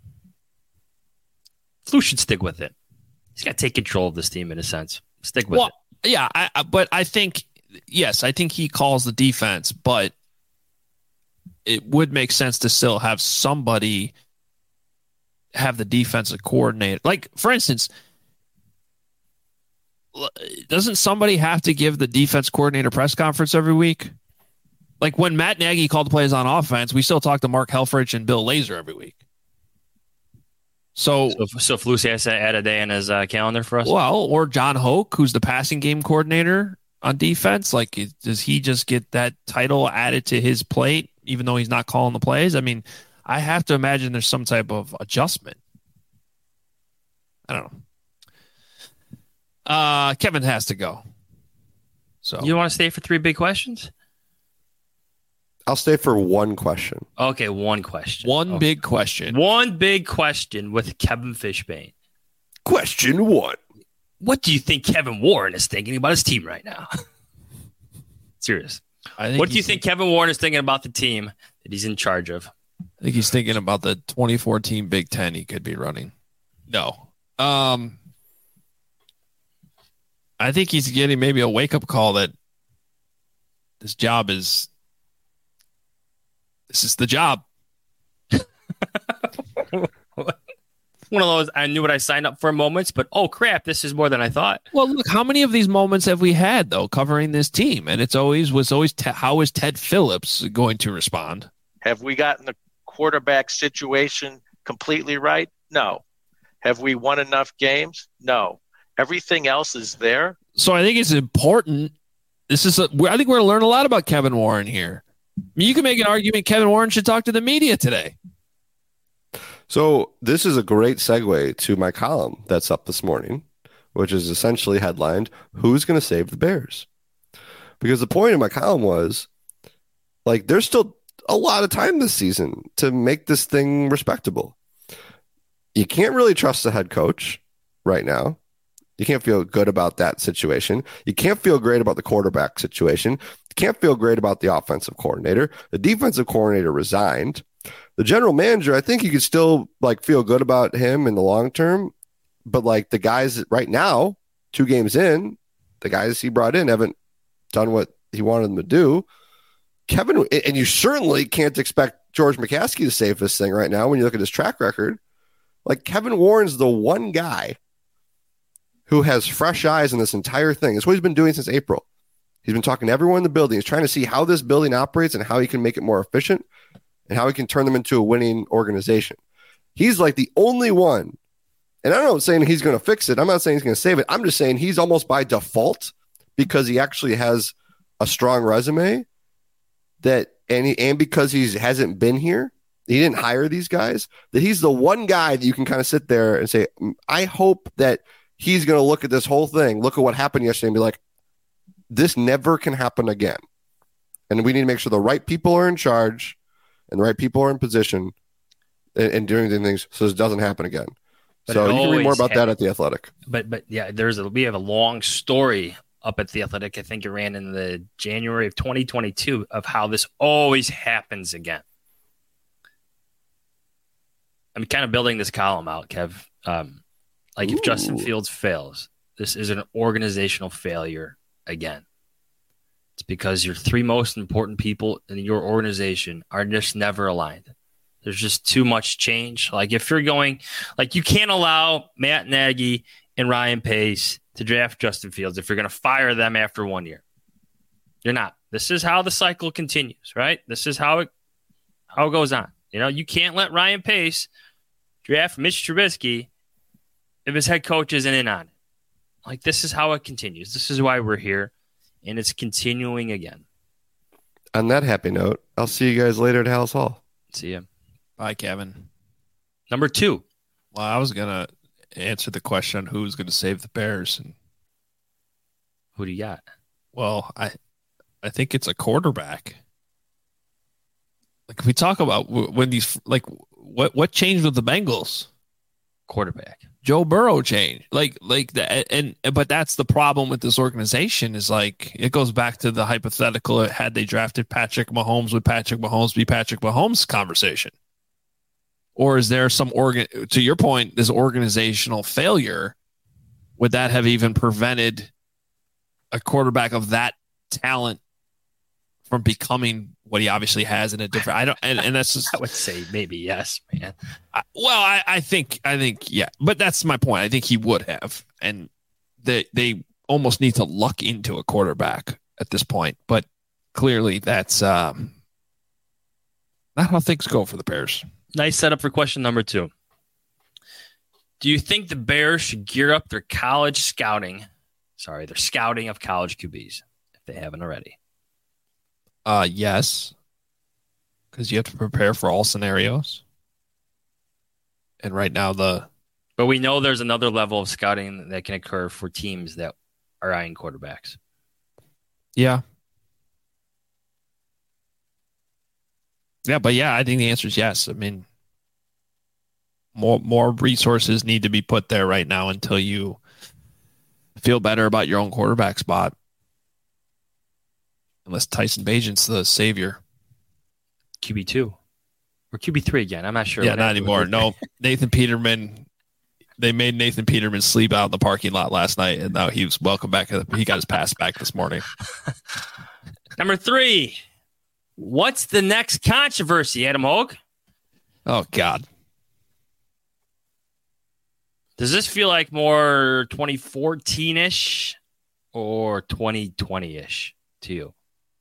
Flus should stick with it. He's got to take control of this team in a sense. Stick with it. Yeah, but I think, yes, I think he calls the defense, but it would make sense to still have somebody have the defensive coordinator. Like, for instance, doesn't somebody have to give the defense coordinator press conference every week? Like when Matt Nagy called the plays on offense, we still talk to Mark Helfrich and Bill Lazor every week. So Flus has to add a day in his calendar for us? Well, or John Hoke, who's the passing game coordinator on defense. Like, does he just get that title added to his plate, even though he's not calling the plays? I mean, I have to imagine there's some type of adjustment. I don't know. Kevin has to go. So you want to stay for 3 big questions? I'll stay for one question. Okay, one question. One big question. One big question with Kevin Fishbane. Question 1. What do you think Kevin Warren is thinking about his team right now? Serious. What do you think Kevin Warren is thinking about the team that he's in charge of? I think he's thinking about the 2014 Big Ten he could be running. No. I think he's getting maybe a wake-up call that this is the job. One of those, I knew what I signed up for moments, but oh crap, this is more than I thought. Well, look, how many of these moments have we had, though, covering this team? And it's always how is Ted Phillips going to respond? Have we gotten the quarterback situation completely right? No. Have we won enough games? No. Everything else is there. So I think it's important. I think we're going to learn a lot about Kevin Warren here. I mean, you can make an argument Kevin Warren should talk to the media today. So this is a great segue to my column that's up this morning, which is essentially headlined, "Who's going to save the Bears?" Because the point of my column was, like, there's still a lot of time this season to make this thing respectable. You can't really trust the head coach right now. You can't feel good about that situation. You can't feel great about the quarterback situation. You can't feel great about the offensive coordinator. The defensive coordinator resigned. The general manager, I think you could still like feel good about him in the long term, but like the guys right now, 2 games in, the guys he brought in haven't done what he wanted them to do. Kevin, and you certainly can't expect George McCaskey to save this thing right now when you look at his track record. Like, Kevin Warren's the one guy who has fresh eyes in this entire thing. It's what he's been doing since April. He's been talking to everyone in the building. He's trying to see how this building operates and how he can make it more efficient and how he can turn them into a winning organization. He's like the only one. And I'm not saying he's going to fix it. I'm not saying he's going to save it. I'm just saying he's almost by default, because he actually has a strong resume, and because he hasn't been here, he didn't hire these guys, that he's the one guy that you can kind of sit there and say, I hope that he's going to look at this whole thing, look at what happened yesterday, and be like, this never can happen again. And we need to make sure the right people are in charge and the right people are in position and doing things so this doesn't happen again. But so you can read more about that at The Athletic. But yeah, we have a long story up at The Athletic. I think it ran in the January of 2022 of how this always happens again. I'm kind of building this column out, Kev. If Justin Fields fails, this is an organizational failure again. It's because your 3 most important people in your organization are just never aligned. There's just too much change. Like, if you're going, like, you can't allow Matt Nagy and Ryan Pace to draft Justin Fields if you're going to fire them after 1 year. You're not. This is how the cycle continues, right? This is how it goes on. You know, you can't let Ryan Pace draft Mitch Trubisky if his head coach isn't in on it. Like, this is how it continues. This is why we're here, and it's continuing again. On that happy note, I'll see you guys later at Hallis Hall. See ya. Bye, Kevin. Number 2. Well, I was going to answer the question on who's going to save the Bears. And who do you got? Well, I think it's a quarterback. Like, we talk about when these, like, what changed with the Bengals? Quarterback. Joe Burrow changed. But that's the problem with this organization is, like, it goes back to the hypothetical had they drafted Patrick Mahomes, would Patrick Mahomes be Patrick Mahomes conversation? Or is there some to your point, this organizational failure, would that have even prevented a quarterback of that talent from becoming what he obviously has in a different, and that's just, I would say maybe yes, man. I think, yeah, but that's my point. I think he would have, and they almost need to luck into a quarterback at this point, but clearly that's not how things go for the Bears. Nice setup for question number 2. Do you think the Bears should gear up their scouting of college QBs if they haven't already? Yes, because you have to prepare for all scenarios. And right now but we know there's another level of scouting that can occur for teams that are eyeing quarterbacks. Yeah. Yeah, but yeah, I think the answer is yes. I mean, more resources need to be put there right now until you feel better about your own quarterback spot. Unless Tyson Bagent's the savior. QB2 or QB3 again. I'm not sure. Yeah, not anymore. No, Nathan Peterman. They made Nathan Peterman sleep out in the parking lot last night, and now he was welcome back. He got his pass back this morning. Number 3. What's the next controversy, Adam Hogue? Oh, God. Does this feel like more 2014-ish or 2020-ish to you?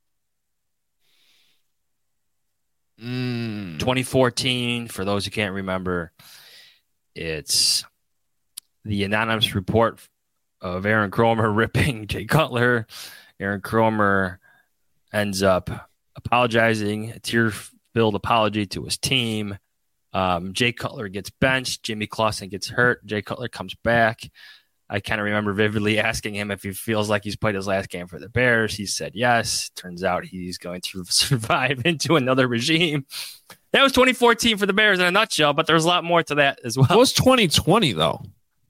2014, for those who can't remember, it's the anonymous report of Aaron Kromer ripping Jay Cutler. Aaron Kromer ends up apologizing, a tear-filled apology to his team. Jay Cutler gets benched. Jimmy Clausen gets hurt. Jay Cutler comes back. I kind of remember vividly asking him if he feels like he's played his last game for the Bears. He said yes. Turns out he's going to survive into another regime. That was 2014 for the Bears in a nutshell, but there's a lot more to that as well. What was 2020, though?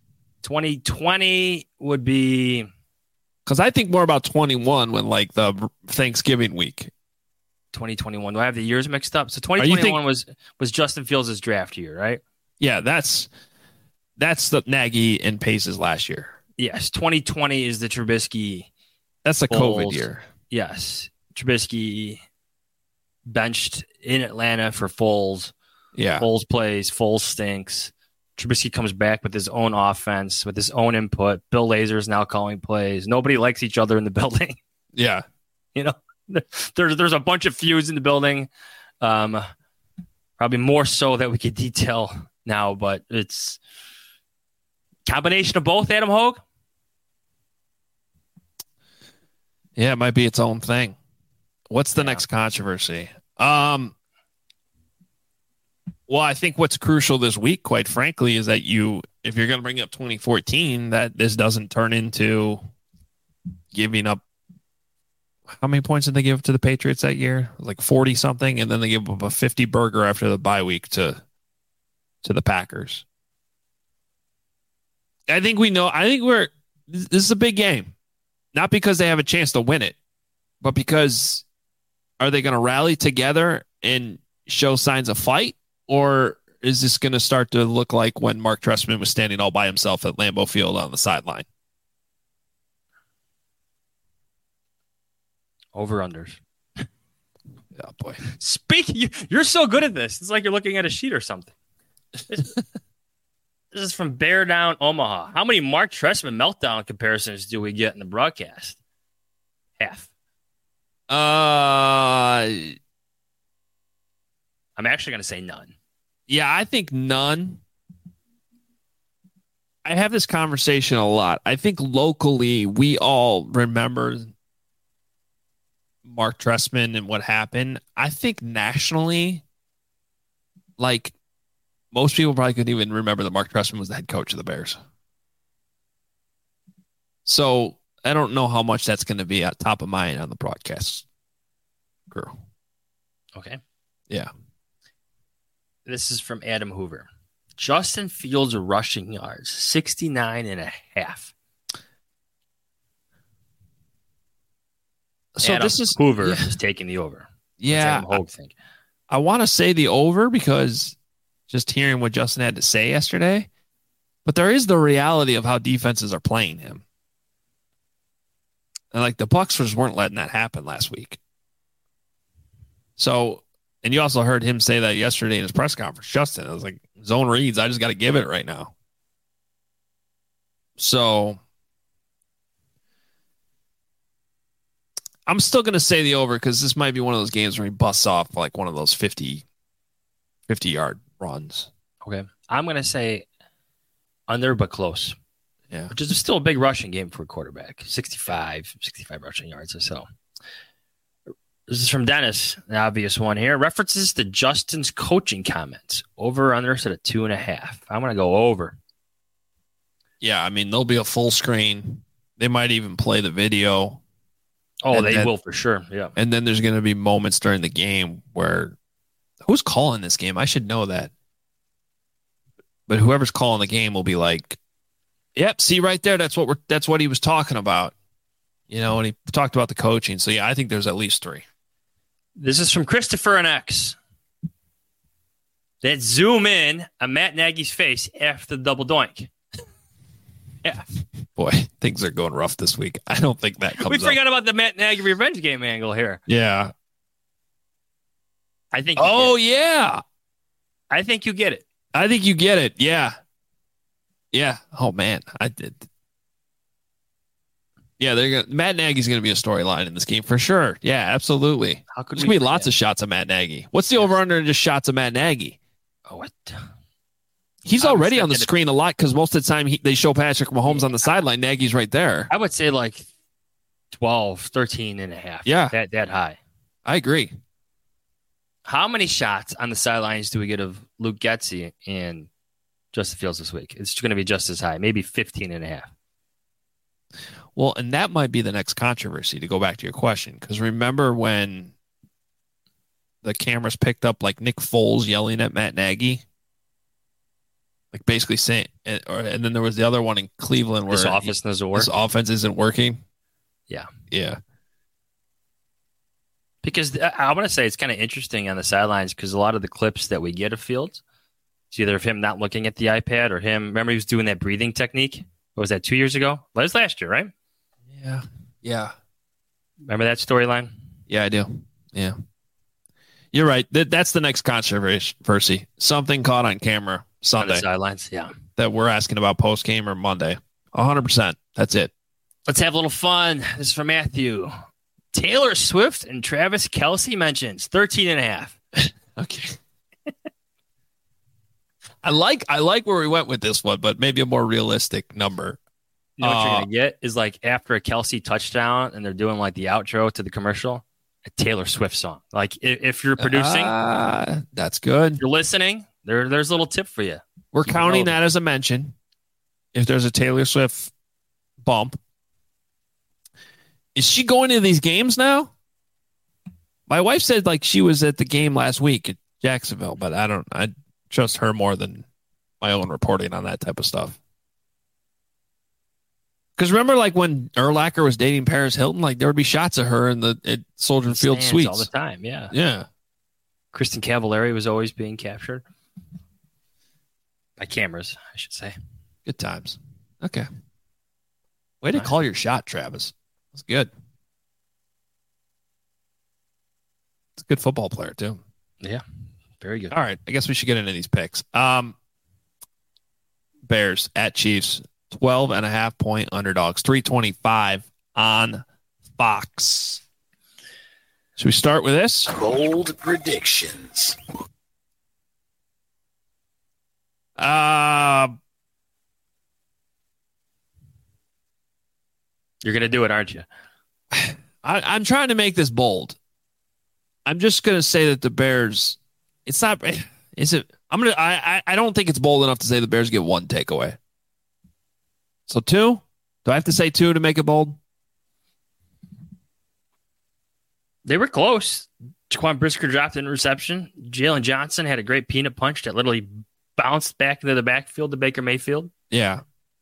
2020 would be... Because I think more about 21 when, like, the Thanksgiving week. 2021. Do I have the years mixed up? So 2021 was Justin Fields' draft year, right? Yeah, that's the Nagy and Pace's last year. Yes. 2020 is the Trubisky. That's the COVID year. Yes. Trubisky benched in Atlanta for Foles. Yeah. Foles plays. Foles stinks. Trubisky comes back with his own offense, with his own input. Bill Lazor is now calling plays. Nobody likes each other in the building. Yeah. You know, there's a bunch of feuds in the building. Probably more so that we could detail now, but it's combination of both, Adam Hogue? Yeah, it might be its own thing. What's the next controversy? Well, I think what's crucial this week, quite frankly, is that if you're going to bring up 2014, that this doesn't turn into giving up. How many points did they give to the Patriots that year? Like 40 something, and then they give up a 50 burger after the bye week to the Packers. I think this is a big game. Not because they have a chance to win it, but because are they going to rally together and show signs of fight? Or is this going to start to look like when Mark Trestman was standing all by himself at Lambeau Field on the sideline? Over-unders. Oh, boy. You're so good at this. It's like you're looking at a sheet or something. This is from Bear Down, Omaha. How many Mark Trestman meltdown comparisons do we get in the broadcast? Half. I'm actually going to say none. Yeah, I think none. I have this conversation a lot. I think locally we all remember Mark Trestman and what happened. I think nationally, like most people probably couldn't even remember that Mark Trestman was the head coach of the Bears. So I don't know how much that's going to be at top of mind on the broadcast crew. Okay. Yeah. This is from Adam Hoover. Justin Fields rushing yards, 69.5. So Adam this is Hoover is taking the over. Yeah. What's Adam Hogue think? I want to say the over because just hearing what Justin had to say yesterday, but there is the reality of how defenses are playing him. And like the Bucs just weren't letting that happen last week. So, and you also heard him say that yesterday in his press conference, Justin. I was like, zone reads, I just got to give it right now. So, I'm still going to say the over because this might be one of those games where he busts off like one of those 50-yard runs. Okay. I'm going to say under, but close. Yeah. Which is still a big rushing game for a quarterback. 65 rushing yards or so. This is from Dennis, the obvious one here. References to Justin's coaching comments. Over or under set at 2.5. I'm going to go over. Yeah, I mean, there'll be a full screen. They might even play the video. Oh, they will for sure. Yeah. And then there's going to be moments during the game where who's calling this game? I should know that. But whoever's calling the game will be like, "Yep, see right there. That's what he was talking about." You know, and he talked about the coaching. So yeah, I think there's at least 3. This is from Christopher and X. That zoom in on Matt Nagy's face after the double doink. Yeah. Boy, things are going rough this week. I don't think that comes We forgot up. about the Matt Nagy revenge game angle here. Yeah. I think. Yeah. I think you get it. I think you get it. Yeah. Yeah. Oh man, I did. Yeah, Matt Nagy's going to be a storyline in this game for sure. Yeah, absolutely. How could There's going to be lots of shots of Matt Nagy. What's the over-under in just shots of Matt Nagy? Oh, what? He's already on the screen a lot because most of the time they show Patrick Mahomes on the sideline. Nagy's right there. I would say like 12, 13.5. Yeah. That high. I agree. How many shots on the sidelines do we get of Luke Getsy and Justin Fields this week? It's going to be just as high, maybe 15.5. Well, and that might be the next controversy, to go back to your question, because remember when the cameras picked up like Nick Foles yelling at Matt Nagy? Like basically saying, and then there was the other one in Cleveland where This offense isn't working. Yeah. Because I want to say it's kind of interesting on the sidelines because a lot of the clips that we get of Fields, it's either of him not looking at the iPad or him. Remember, he was doing that breathing technique. What was that, 2 years ago? That was last year, right? Yeah. Remember that storyline? Yeah, I do. Yeah. You're right. That's the next controversy. Something caught on camera Sunday. On the sidelines, yeah. That we're asking about post-game or Monday. 100%. That's it. Let's have a little fun. This is from Matthew. Taylor Swift and Travis Kelce mentions 13.5. Okay. I like where we went with this one, but maybe a more realistic number. You know what you're going to get is like after a Kelce touchdown and they're doing like the outro to the commercial, a Taylor Swift song. Like if you're producing, that's good. You're listening, there's a little tip for you. We're counting that as a mention. If there's a Taylor Swift bump. Is she going to these games now? My wife said like she was at the game last week at Jacksonville, but I trust her more than my own reporting on that type of stuff. Because remember, like when Urlacher was dating Paris Hilton, like there would be shots of her in at Soldier Field suites all the time. Yeah, yeah. Kristen Cavallari was always being captured by cameras, I should say. Good times. Okay. Way to call your shot, Travis. That's good. It's a good football player too. Yeah, very good. All right, I guess we should get into these picks. Bears at Chiefs. 12.5-point underdogs, 325 on Fox. Should we start with this? Bold predictions. You're going to do it, aren't you? I'm trying to make this bold. I'm just going to say that the Bears, it's not, is it? I don't think it's bold enough to say the Bears get one takeaway. So 2? Do I have to say 2 to make it bold? They were close. Jaquan Brisker dropped an interception. Jalen Johnson had a great peanut punch that literally bounced back into the backfield to Baker Mayfield. Yeah.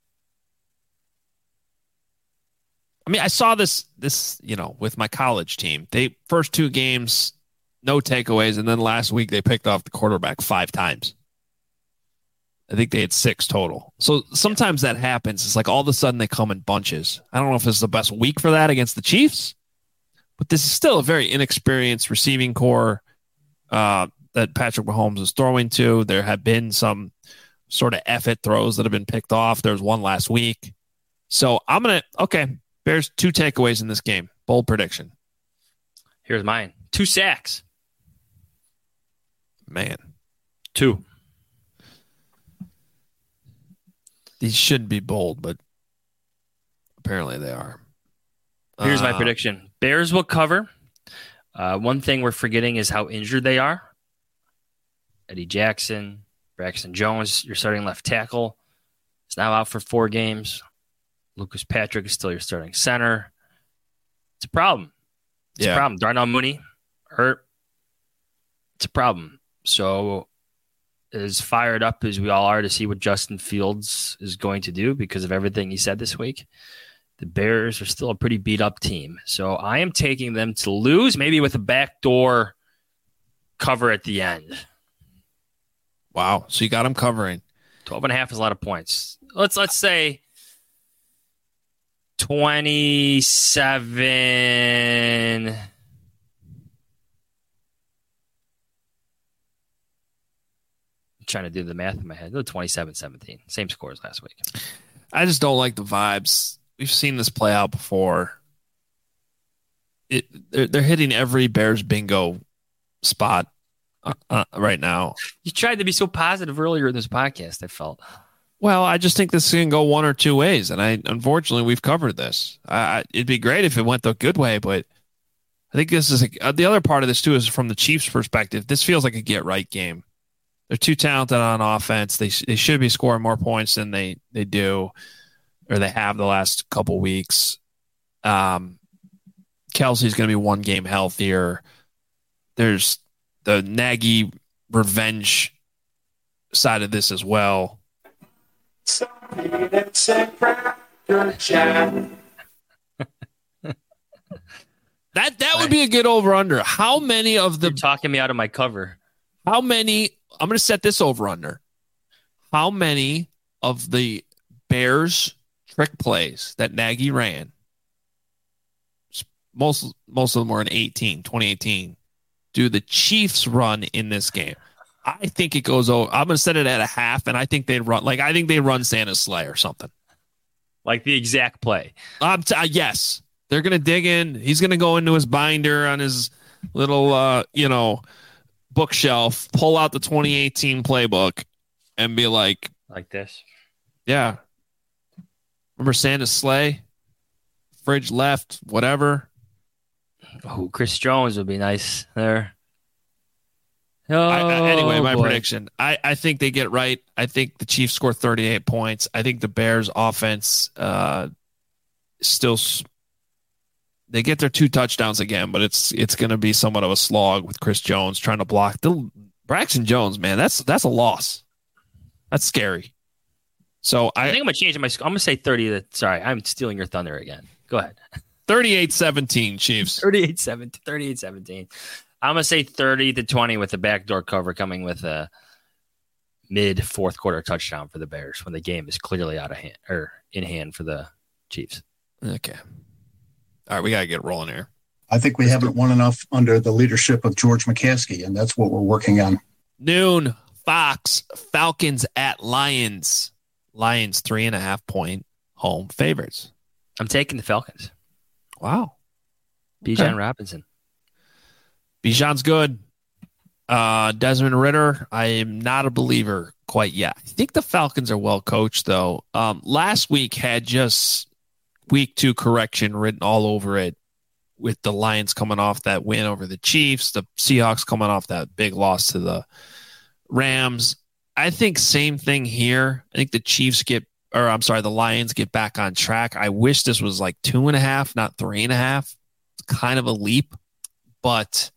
I mean, I saw this, with my college team. They first 2 games, no takeaways, and then last week they picked off the quarterback 5 times. I think they had 6 total. So sometimes that happens. It's like all of a sudden they come in bunches. I don't know if it's the best week for that against the Chiefs, but this is still a very inexperienced receiving core that Patrick Mahomes is throwing to. There have been some sort of effort throws that have been picked off. There's one last week. So I'm going to, Bears 2 takeaways in this game. Bold prediction. Here's mine. 2 sacks. Man. 2. These shouldn't be bold, but apparently they are. Here's my prediction. Bears will cover. One thing we're forgetting is how injured they are. Eddie Jackson, Braxton Jones, your starting left tackle, is now out for 4 games. Lucas Patrick is still your starting center. It's a problem. It's a problem. Darnell Mooney hurt. It's a problem. So as fired up as we all are to see what Justin Fields is going to do because of everything he said this week, the Bears are still a pretty beat-up team. So I am taking them to lose, maybe with a backdoor cover at the end. Wow. So you got them covering. 12.5 is a lot of points. Let's say 27. I'm trying to do the math in my head. 27-17. Same score as last week. I just don't like the vibes. We've seen this play out before. They're hitting every Bears bingo spot right now. You tried to be so positive earlier in this podcast, I felt. Well, I just think this can go one or 2 ways, and unfortunately we've covered this. It'd be great if it went the good way, but I think this is the other part of this too is from the Chiefs' perspective. This feels like a get-right game. They're too talented on offense. They should be scoring more points than they do, or they have the last couple weeks. Kelsey's going to be 1 game healthier. There's the Nagy revenge side of this as well. That would be a good over-under. How many of the... You're talking me out of my cover. How many... I'm going to set this over-under. How many of the Bears trick plays that Nagy ran, most of them were in 2018, do the Chiefs run in this game? I think it goes over. I'm going to set it at a half, and I think they run Santa's sleigh or something. Like the exact play. Yes. They're going to dig in. He's going to go into his binder on his little, bookshelf, pull out the 2018 playbook, and be like this. Yeah. Remember Santa's sleigh? Fridge left, whatever. Oh, Chris Jones would be nice there. Anyway, my prediction. I think they get right. I think the Chiefs score 38 points. I think the Bears offense still they get their 2 touchdowns again, but it's going to be somewhat of a slog with Chris Jones trying to block. Braxton Jones, man, that's a loss. That's scary. So I think I'm going to change my score. I'm going to say 30. Sorry, I'm stealing your thunder again. Go ahead. 38-17 Chiefs. 38-17. I'm going to say 30-20 with the backdoor cover coming with a mid fourth quarter touchdown for the Bears when the game is clearly out of hand or in hand for the Chiefs. Okay. All right, we got to get rolling here. I think we haven't won enough under the leadership of George McCaskey, and that's what we're working on. Noon, Fox, Falcons at Lions. Lions 3.5-point home favorites. I'm taking the Falcons. Wow. Bijan Robinson. Bijan's good. Desmond Ridder, I am not a believer quite yet. I think the Falcons are well coached, though. Last week had just week 2 correction written all over it, with the Lions coming off that win over the Chiefs, the Seahawks coming off that big loss to the Rams. I think same thing here. I think the Lions get back on track. I wish this was like 2.5, not 3.5. It's kind of a leap, but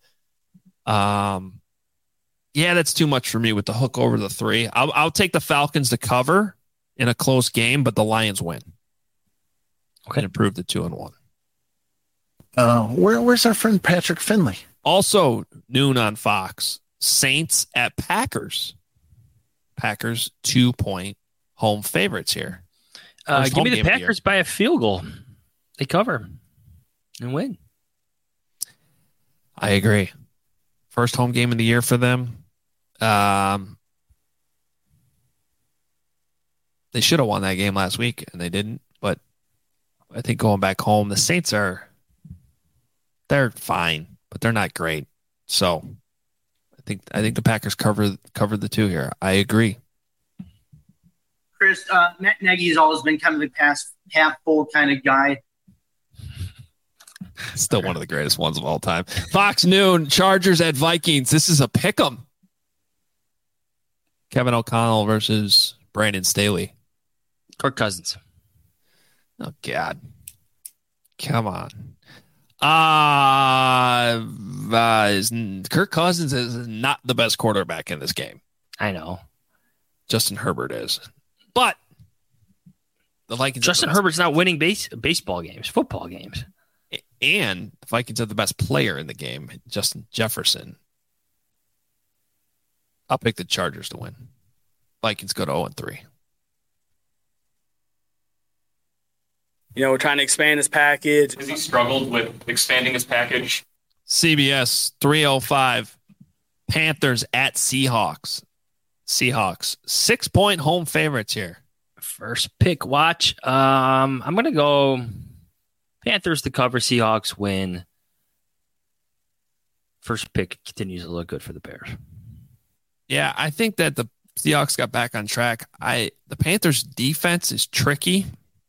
yeah, that's too much for me with the hook over the 3. I'll take the Falcons to cover in a close game, but the Lions win. Okay, and improve to 2-1. Where's our friend Patrick Finley? Also noon on Fox. Saints at Packers. Packers 2-point home favorites here. Give me the Packers by a field goal. They cover and win. I agree. First home game of the year for them. They should have won that game last week, and they didn't. But I think going back home, the Saints they're fine, but they're not great. So I think the Packers covered the 2 here. I agree. Chris, Matt Nagy has always been kind of the past half full kind of guy. Still one of the greatest ones of all time. Fox noon, Chargers at Vikings. This is a pick'em. Kevin O'Connell versus Brandon Staley. Kirk Cousins. Oh, God. Come on. Kirk Cousins is not the best quarterback in this game. I know. Justin Herbert is. But the Vikings. Justin Herbert's not winning baseball games, football games. And the Vikings have the best player in the game, Justin Jefferson. I'll pick the Chargers to win. Vikings go to 0-3. We're trying to expand his package. Has he struggled with expanding his package? CBS 305. Panthers at Seahawks. Seahawks 6-point home favorites here. First pick watch. I'm gonna go Panthers to cover, Seahawks win. First pick continues to look good for the Bears. Yeah, I think that the Seahawks got back on track. The Panthers defense is tricky.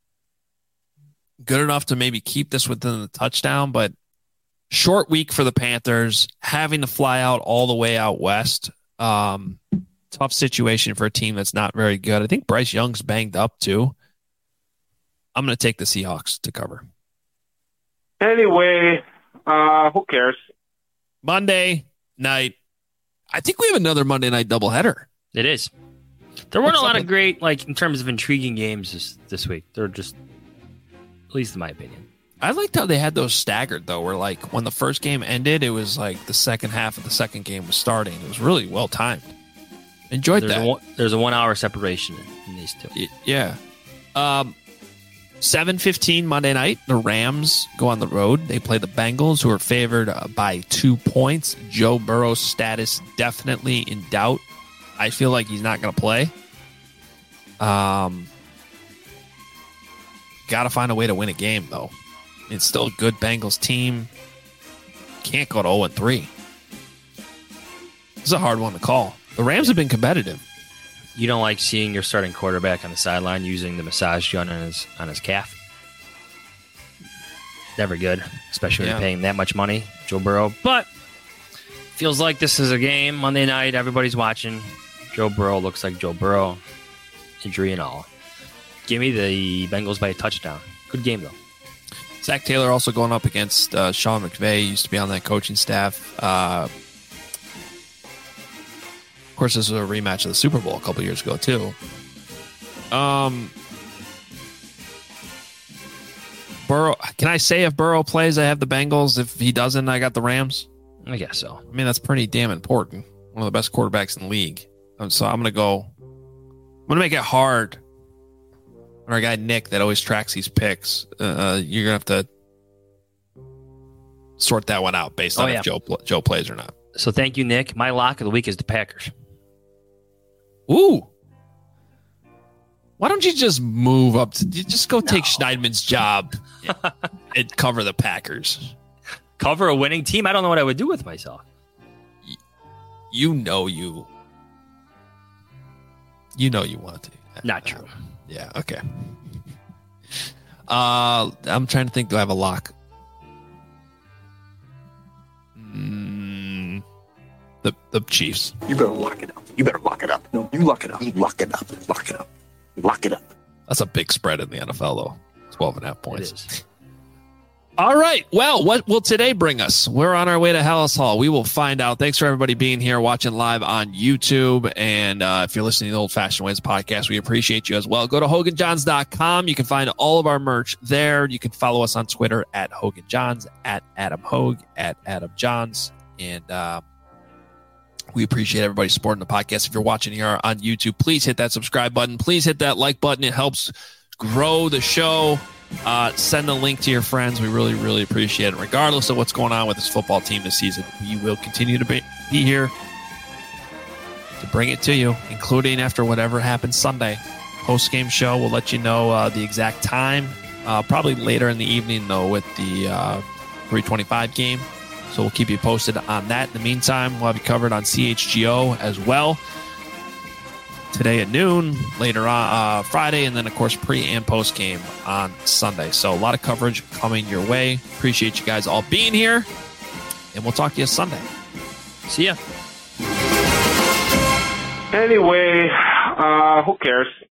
Good enough to maybe keep this within the touchdown, but short week for the Panthers, having to fly out all the way out west. Tough situation for a team that's not very good. I think Bryce Young's banged up too. I'm going to take the Seahawks to cover. Anyway, who cares? Monday night. I think we have another Monday night doubleheader. It is. There weren't a lot of great, in terms of intriguing games this week. They're just, at least in my opinion. I liked how they had those staggered, though, where, when the first game ended, it was the second half of the second game was starting. It was really well timed. Enjoyed that. There's a 1 hour separation in these two. Yeah. 7:15 Monday night, the Rams go on the road. They play the Bengals, who are favored by 2 points. Joe Burrow's status definitely in doubt. I feel like he's not going to play. Got to find a way to win a game, though. It's still a good Bengals team. Can't go to 0-3. This is a hard one to call. The Rams have been competitive. You don't like seeing your starting quarterback on the sideline using the massage gun on his calf? Never good, especially when you're paying that much money, Joe Burrow. But feels like this is a game Monday night. Everybody's watching. Joe Burrow looks like Joe Burrow, injury and all. Give me the Bengals by a touchdown. Good game though. Zach Taylor also going up against Sean McVay. He used to be on that coaching staff. Of course, this was a rematch of the Super Bowl a couple years ago, too. Burrow. Can I say if Burrow plays, I have the Bengals? If he doesn't, I got the Rams? I guess so. I mean, that's pretty damn important. One of the best quarterbacks in the league. So I'm going to make it hard. Our guy Nick that always tracks these picks. You're going to have to sort that one out based on if Joe plays or not. So thank you, Nick. My lock of the week is the Packers. Ooh. Why don't you just move up? Just go take Schneidman's job and cover the Packers. Cover a winning team? I don't know what I would do with myself. You know you want to. Not true. Yeah, okay. I'm trying to think. Do I have a lock? The Chiefs. You better lock it up. You better lock it up. No, you lock it up. You lock it up. Lock it up. Lock it up. That's a big spread in the NFL, though. 12.5 points. All right. Well, what will today bring us? We're on our way to Hallis Hall. We will find out. Thanks for everybody being here, watching live on YouTube. And if you're listening to the Old Fashioned Ways podcast, we appreciate you as well. Go to HoganJohns.com. You can find all of our merch there. You can follow us on Twitter at HoganJohns, at Adam Hogue, at Adam Johns. And we appreciate everybody supporting the podcast. If you're watching here on YouTube, please hit that subscribe button. Please hit that like button. It helps grow the show. Send a link to your friends. We really, really appreciate it. Regardless of what's going on with this football team this season, we will continue to be here to bring it to you, including after whatever happens Sunday. Post-game show, we'll let you know the exact time. Probably later in the evening, though, with the 3:25 game. So we'll keep you posted on that. In the meantime, we'll have you covered on CHGO as well. Today at noon, later on Friday, and then, of course, pre- and post-game on Sunday. So a lot of coverage coming your way. Appreciate you guys all being here, and we'll talk to you Sunday. See ya. Anyway, who cares?